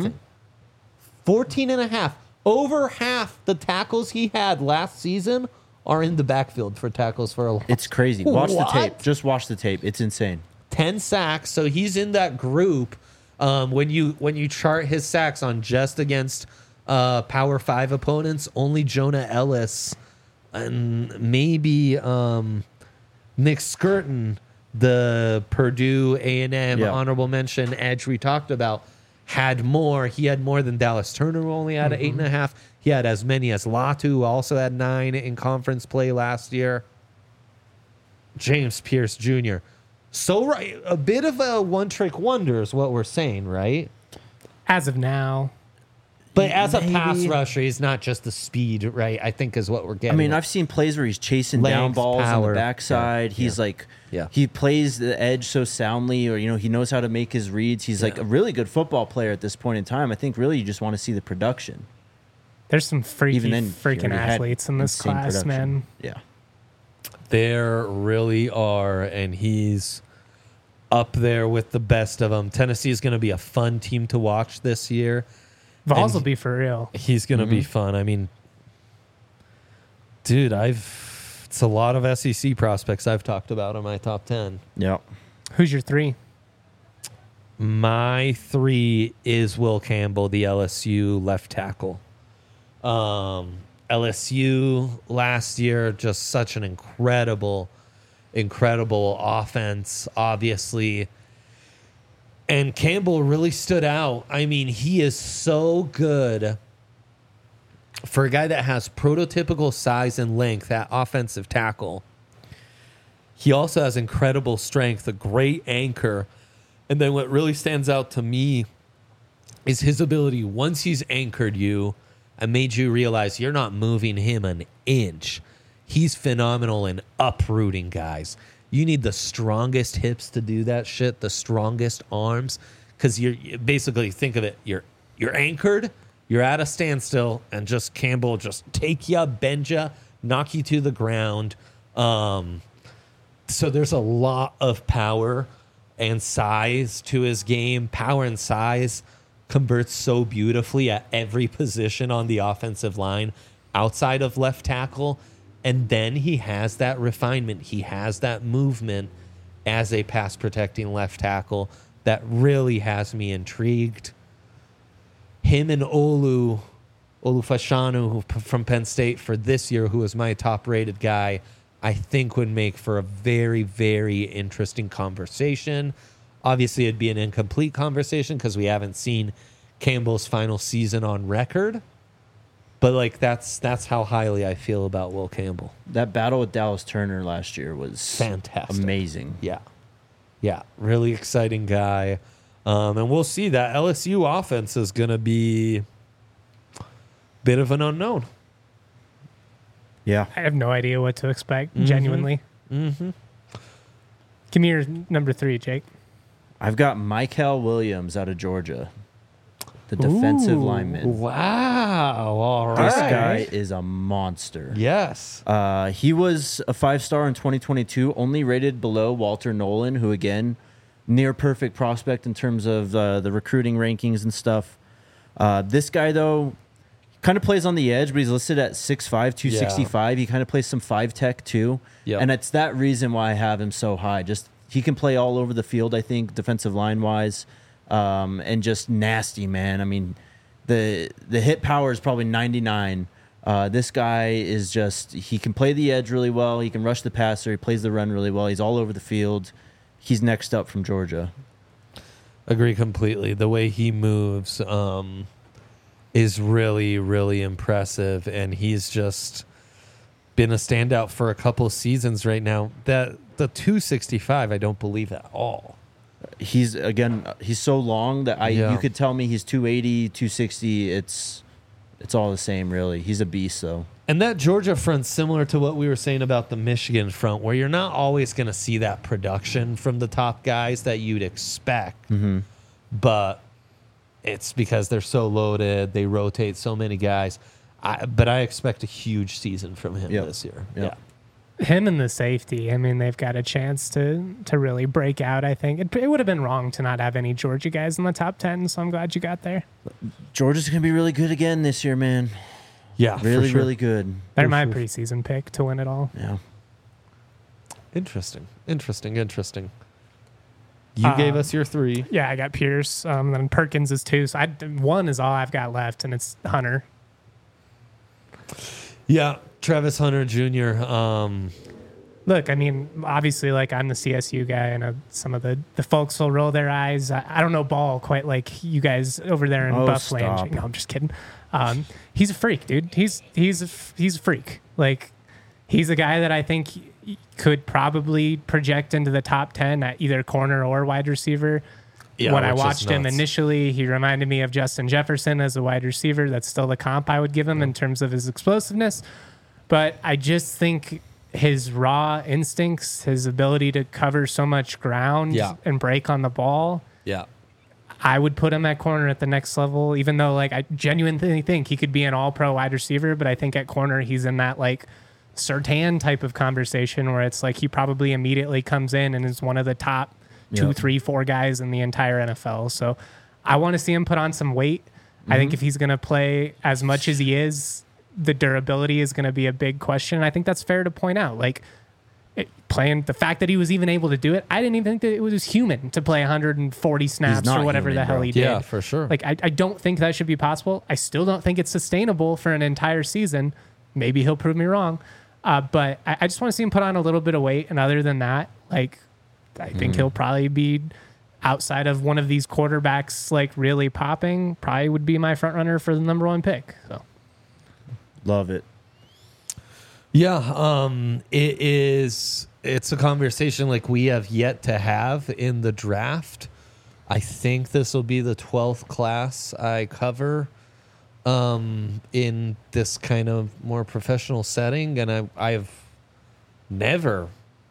14 and a half. Over half the tackles he had last season are in the backfield for tackles for a loss. It's crazy. Watch the What? tape. Just watch the tape. It's insane. 10 sacks. So he's in that group. When you chart his sacks on just against Power 5 opponents, only Jonah Ellis and maybe Nick Skirton, the Purdue A&M honorable mention edge we talked about, had more. He had more than Dallas Turner, who only had 8.5. He had as many as Latu, who also had 9 in conference play last year. James Pierce Jr. So right, a bit of a one-trick wonder is what we're saying, right? As of now. But as a pass rusher, he's not just the speed, right? I think is what we're getting. I mean, at. I've seen plays where he's chasing down Length, balls on power. the backside. He's like, he plays the edge so soundly, or he knows how to make his reads. He's like a really good football player at this point in time. I think really you just want to see the production. There's some Even then, he freaking already had athletes in this insane class, production. man. Yeah. There really are, and he's up there with the best of them. Tennessee is going to be a fun team to watch this year. Vols will be for real. He's going to be fun. I mean, dude, it's a lot of SEC prospects I've talked about in my top 10. Yeah. Who's your 3? My 3 is Will Campbell, the LSU left tackle. LSU last year, just such an incredible offense, obviously. And Campbell really stood out. I mean, he is so good for a guy that has prototypical size and length at offensive tackle. He also has incredible strength, a great anchor. And then what really stands out to me is his ability, once he's anchored you and made you realize you're not moving him an inch, he's phenomenal in uprooting guys. You need the strongest hips to do that shit, the strongest arms, because you're basically, think of it, you're anchored, you're at a standstill, and just Campbell just take you, bend you, knock you to the ground. So there's a lot of power and size to his game. Power and size converts so beautifully at every position on the offensive line outside of left tackle. And then he has that refinement. He has that movement as a pass protecting left tackle that really has me intrigued. Him and Olu Fashanu from Penn State for this year, who was my top rated guy, I think would make for a very, very interesting conversation. Obviously, it'd be an incomplete conversation because we haven't seen Campbell's final season on record. But like that's how highly I feel about Will Campbell. That battle with Dallas Turner last year was Fantastic. amazing. Yeah, really exciting guy. And we'll see. That LSU offense is going to be a bit of an unknown. Yeah. I have no idea what to expect, genuinely. Give me your number 3, Jake. I've got Michael Williams out of Georgia, the defensive Ooh. lineman. Wow. All This right. guy is a monster. Yes. He was a 5-star in 2022, only rated below Walter Nolan, who, again, near perfect prospect in terms of the recruiting rankings and stuff. This guy, though, kind of plays on the edge, but he's listed at 6'5", 265. He kind of plays some 5-tech, too. Yep. And it's that reason why I have him so high. Just he can play all over the field, I think, defensive line-wise, and just nasty, man. I mean, the hit power is probably 99. This guy is just, he can play the edge really well. He can rush the passer. He plays the run really well. He's all over the field. He's next up from Georgia. Agree completely. The way he moves is really, really impressive, and he's just been a standout for a couple seasons right now. That the 265, I don't believe at all. He's so long that Yeah. you could tell me he's 280, 260. It's all the same, really. He's a beast, though. And that Georgia front's similar to what we were saying about the Michigan front, where you're not always going to see that production from the top guys that you'd expect. Mm-hmm. But it's because they're so loaded. They rotate so many guys. But I expect a huge season from him Yep. this year. Yep. Yeah. Him and the safety, I mean, they've got a chance to really break out, I think. It would have been wrong to not have any Georgia guys in the top 10, so I'm glad you got there. Georgia's going to be really good again this year, man. Yeah, Really, for sure. really good. They're For my sure. preseason pick to win it all. Yeah. Interesting. You gave us your 3. Yeah, I got Pierce, then Perkins is 2, so 1 is all I've got left, and it's Hunter. Yeah, Travis Hunter Jr. Look, I mean, obviously, like, I'm the CSU guy. I know some of the folks will roll their eyes. I don't know ball quite like you guys over there in Oh, Buffland. stop. No, I'm just kidding. He's a freak, dude. He's a freak. Like, he's a guy that I think could probably project into the top 10 at either corner or wide receiver. Yeah, when I which is watched him nuts. initially, he reminded me of Justin Jefferson as a wide receiver. That's still the comp I would give him in terms of his explosiveness. But I just think his raw instincts, his ability to cover so much ground Yeah. and break on the ball, Yeah. I would put him at corner at the next level, even though, like, I genuinely think he could be an all-pro wide receiver. But I think at corner, he's in that, like, Surtain type of conversation where it's like he probably immediately comes in and is one of the top 2, Yep. 3, 4 guys in the entire NFL. So I want to see him put on some weight. I think if he's going to play as much as he is, the durability is going to be a big question. I think that's fair to point out. Like, playing the fact that he was even able to do it, I didn't even think that it was human to play 140 snaps not or whatever human, the hell bro. he did. Yeah, for sure. Like, I don't think that should be possible. I still don't think it's sustainable for an entire season. Maybe he'll prove me wrong. But I just want to see him put on a little bit of weight. And other than that, like, I think he'll probably be outside of one of these quarterbacks, like, really popping, probably would be my front runner for the number 1 pick. So Love it. Yeah, it's a conversation like we have yet to have in the draft. I think this will be the 12th class I cover in this kind of more professional setting, and I've never,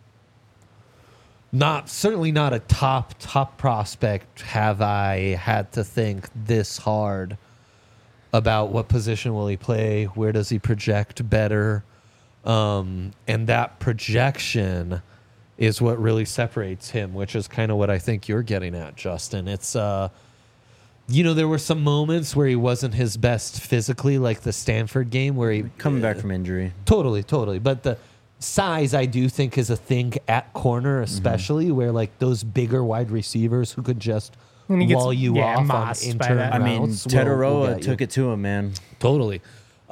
certainly not a top prospect, have I had to think this hard about what position will he play, where does he project better. And that projection is what really separates him, which is kind of what I think you're getting at, Justin. It's, there were some moments where he wasn't his best physically, like the Stanford game where he... Coming back from injury. Totally. But the size, I do think, is a thing at corner, especially where, like, those bigger wide receivers who could just When he gets- wall you yeah, off on mossed by inter that. I mean, routes Ted will Aroa get you. took it to him, man. Totally.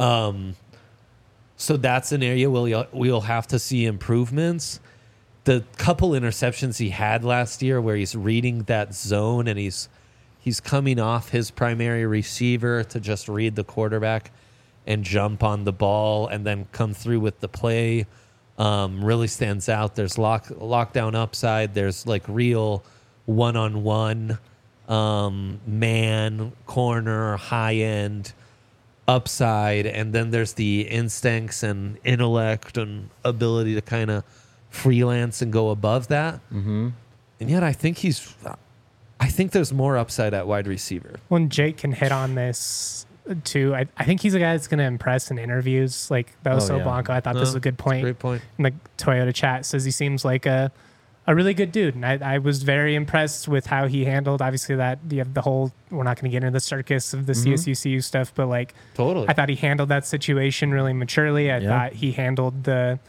So that's an area we'll have to see improvements. The couple interceptions he had last year where he's reading that zone and he's coming off his primary receiver to just read the quarterback and jump on the ball and then come through with the play really stands out. There's lockdown upside. There's, like, real one-on-one man, corner, high-end upside, and then there's the instincts and intellect and ability to kind of freelance and go above that. Mm-hmm. And yet I think he's I think there's more upside at wide receiver. When Jake can hit on this too, I think he's a guy that's going to impress in interviews. Like Beloso yeah. Blanco, I thought this was a good point. Great point. In the Toyota chat says he seems like a really good dude. And I was very impressed with how he handled, obviously, that you have the whole, we're not going to get into the circus of the CSU stuff, but like, Totally. I thought he handled that situation really maturely. I thought he handled the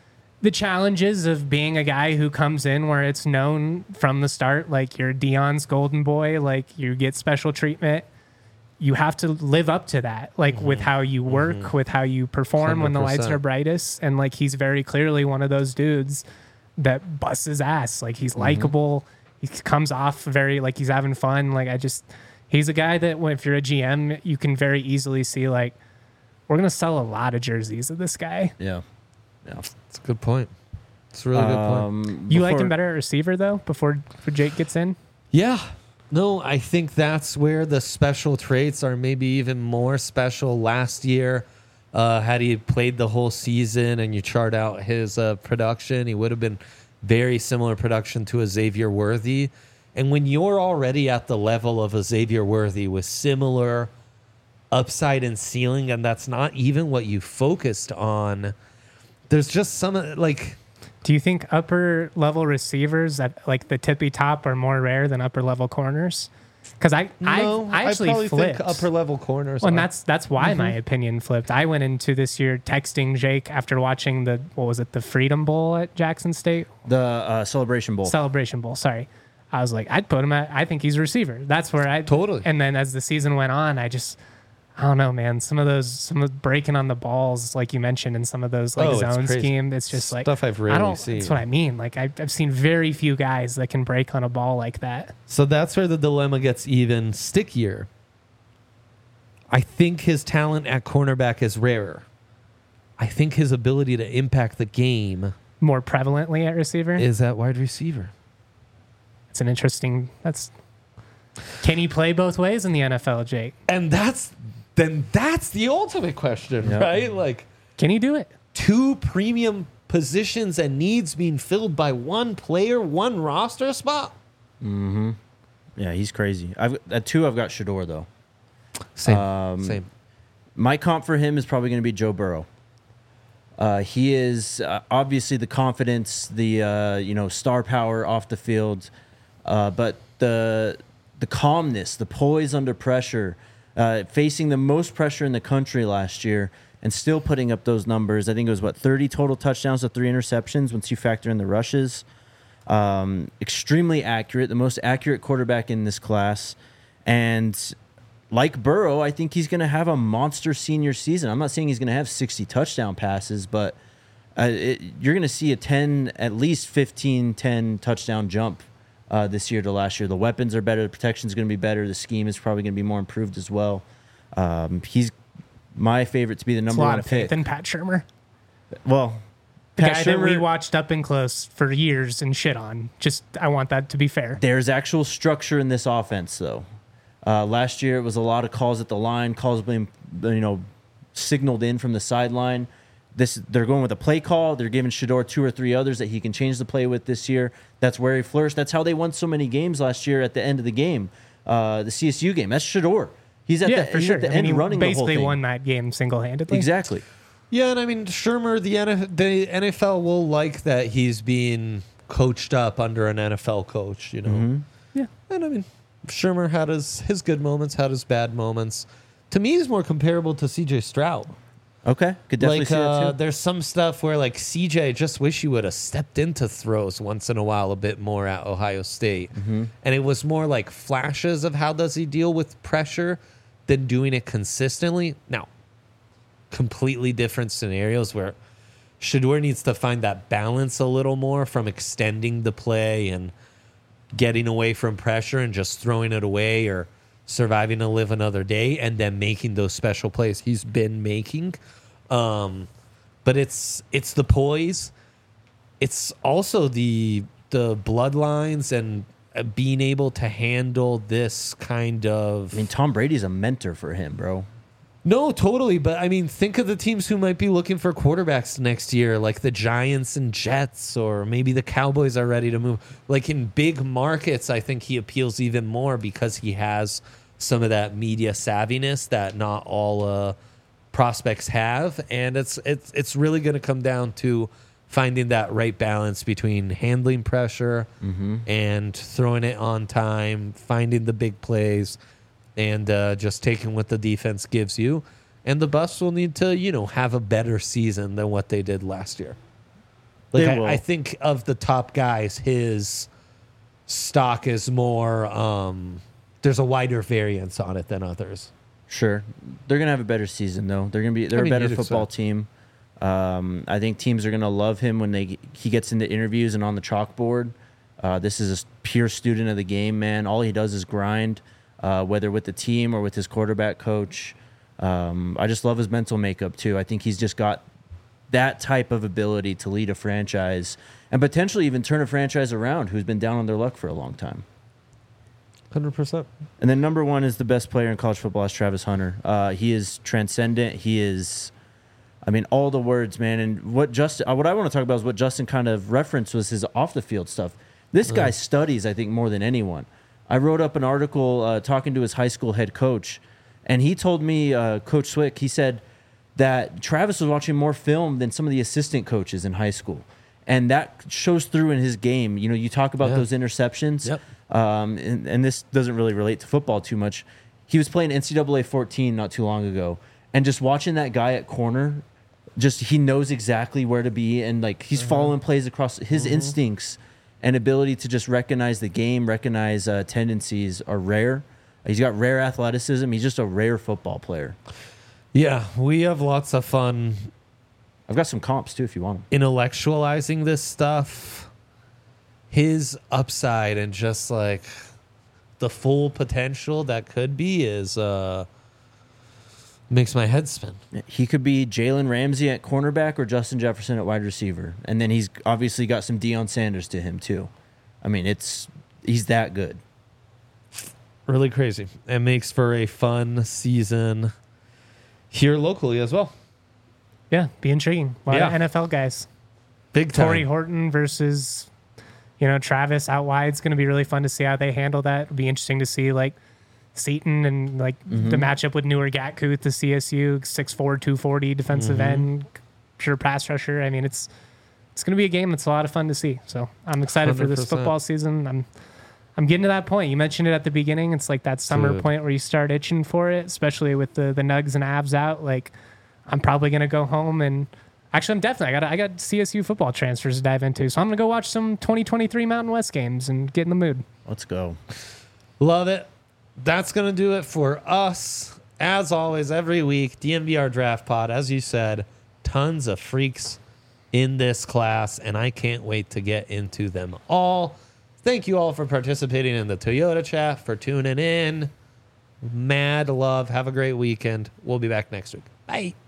challenges of being a guy who comes in where it's known from the start, like you're Dion's golden boy, like you get special treatment. You have to live up to that, like with how you work, with how you perform when the lights 100%. are brightest. And like, he's very clearly one of those dudes that busts his ass. Like he's likable. He comes off very, like he's having fun. Like he's a guy that if you're a GM, you can very easily see like, we're going to sell a lot of jerseys of this guy. Yeah. It's a good point. It's a really good point. You liked him better at receiver though, before Jake gets in? Yeah. No, I think that's where the special traits are maybe even more special. Last year, had he played the whole season and you chart out his production, he would have been very similar production to a Xavier Worthy. And when you're already at the level of a Xavier Worthy with similar upside and ceiling, and that's not even what you focused on, there's just some like... Do you think upper level receivers at like the tippy top are more rare than upper level corners? Because I actually probably flipped. think upper level corners. Well, and are. that's why my opinion flipped. I went into this year texting Jake after watching the Freedom Bowl at Jackson State? The Celebration Bowl. Celebration Bowl, sorry. I was like, I'd put him at, I think he's a receiver. That's where I... Totally. And then as the season went on, I don't know, man. Some of breaking on the balls, like you mentioned, in some of those like it's zone crazy. scheme, it's just like Stuff I've rarely seen. That's what I mean. Like I've seen very few guys that can break on a ball like that. So that's where the dilemma gets even stickier. I think his talent at cornerback is rarer. I think his ability to impact the game More prevalently at receiver. is at wide receiver. It's an interesting. Can he play both ways in the NFL, Jake? And that's the ultimate question, Yep. right? Like Can he do it? two premium positions and needs being filled by one player, one roster spot. Yeah, he's crazy. At 2, I've got Shador though. Same. My comp for him is probably going to be Joe Burrow. He is obviously the confidence, the star power off the field, but the calmness, the poise under pressure, facing the most pressure in the country last year, and still putting up those numbers. I think it was 30 total touchdowns to 3 interceptions once you factor in the rushes. Extremely accurate, the most accurate quarterback in this class, and like Burrow, I think he's going to have a monster senior season. I'm not saying he's going to have 60 touchdown passes, but you're going to see at least 15-10 touchdown jump this year to last year. The weapons are better. The protection's going to be better. The scheme is probably going to be more improved as well. He's my favorite to be the It's a number lot one of faith pick. in Pat Shermer. Well, The Pat guy that we Shermer- watched up and close for years and shit on. Just, I want that to be fair. There's actual structure in this offense, though. Last year, it was a lot of calls at the line, calls being, signaled in from the sideline. They're going with a play call. They're giving Shador 2 or 3 others that he can change the play with this year. That's where he flourished. That's how they won so many games last year at the end of the game, the CSU game. That's Shador. He's at the end he running the whole basically thing. won that game single-handedly. Exactly. Yeah, and I mean, Shermer, the NFL will like that he's being coached up under an NFL coach, Yeah. And I mean, Shermer had his good moments, had his bad moments. To me, he's more comparable to CJ Stroud. Okay. Could definitely Like, see that too. there's some stuff where, like, CJ, just wish he would have stepped into throws once in a while a bit more at Ohio State. And it was more like flashes of how does he deal with pressure than doing it consistently. Now, completely different scenarios where Shador needs to find that balance a little more from extending the play and getting away from pressure and just throwing it away or surviving to live another day and then making those special plays he's been making. But it's the poise. It's also the bloodlines and being able to handle this kind of... I mean, Tom Brady's a mentor for him, bro. No, totally. But I mean, think of the teams who might be looking for quarterbacks next year, like the Giants and Jets, or maybe the Cowboys are ready to move. Like in big markets, I think he appeals even more because he has some of that media savviness that not all prospects have. And it's really going to come down to finding that right balance between handling pressure and throwing it on time, finding the big plays, and just taking what the defense gives you. And the Buffs will need to, have a better season than what they did last year. Like They will. I think of the top guys, his stock is more. There's a wider variance on it than others. Sure, they're gonna have a better season though. They're a better you'd football expect. team. I think teams are gonna love him when he gets into interviews and on the chalkboard. This is a pure student of the game, man. All he does is grind, whether with the team or with his quarterback coach. I just love his mental makeup too. I think he's just got that type of ability to lead a franchise and potentially even turn a franchise around who's been down on their luck for a long time. 100%. And then number one is the best player in college football is Travis Hunter. He is transcendent. He is, all the words, man. And what I want to talk about is what Justin kind of referenced was his off the field stuff. This guy studies, I think, more than anyone. I wrote up an article talking to his high school head coach, and he told me, Coach Swick, he said that Travis was watching more film than some of the assistant coaches in high school. And that shows through in his game. You talk about those interceptions. Yep. And this doesn't really relate to football too much. He was playing NCAA 14 not too long ago, and just watching that guy at corner, he knows exactly where to be, and like he's following plays across his instincts and ability to just recognize the game, recognize tendencies are rare. He's got rare athleticism. He's just a rare football player. Yeah, we have lots of fun I've got some comps too if you want them. intellectualizing this stuff. His upside and just like the full potential that could be is makes my head spin. He could be Jalen Ramsey at cornerback or Justin Jefferson at wide receiver. And then he's obviously got some Deion Sanders to him too. He's that good. Really crazy. It makes for a fun season here locally as well. Yeah, be intriguing. A lot of NFL guys. Big time. Torrey Horton versus, Travis out wide. It's going to be really fun to see how they handle that. It'll be interesting to see like Seaton and like the matchup with Newer Gatkuth, the CSU 6'4", 240 defensive end, pure pass rusher. It's going to be a game that's a lot of fun to see. So I'm excited for this 100%. football season. I'm getting to that point. You mentioned it at the beginning. It's like that summer Dude. point where you start itching for it, especially with the nugs and abs out. Like I'm probably going to go home and actually I got CSU football transfers to dive into. So I'm going to go watch some 2023 Mountain West games and get in the mood. Let's go. Love it. That's going to do it for us. As always, every week, DNVR Draft Pod, as you said, tons of freaks in this class, and I can't wait to get into them all. Thank you all for participating in the Toyota chat, for tuning in. Mad love. Have a great weekend. We'll be back next week. Bye.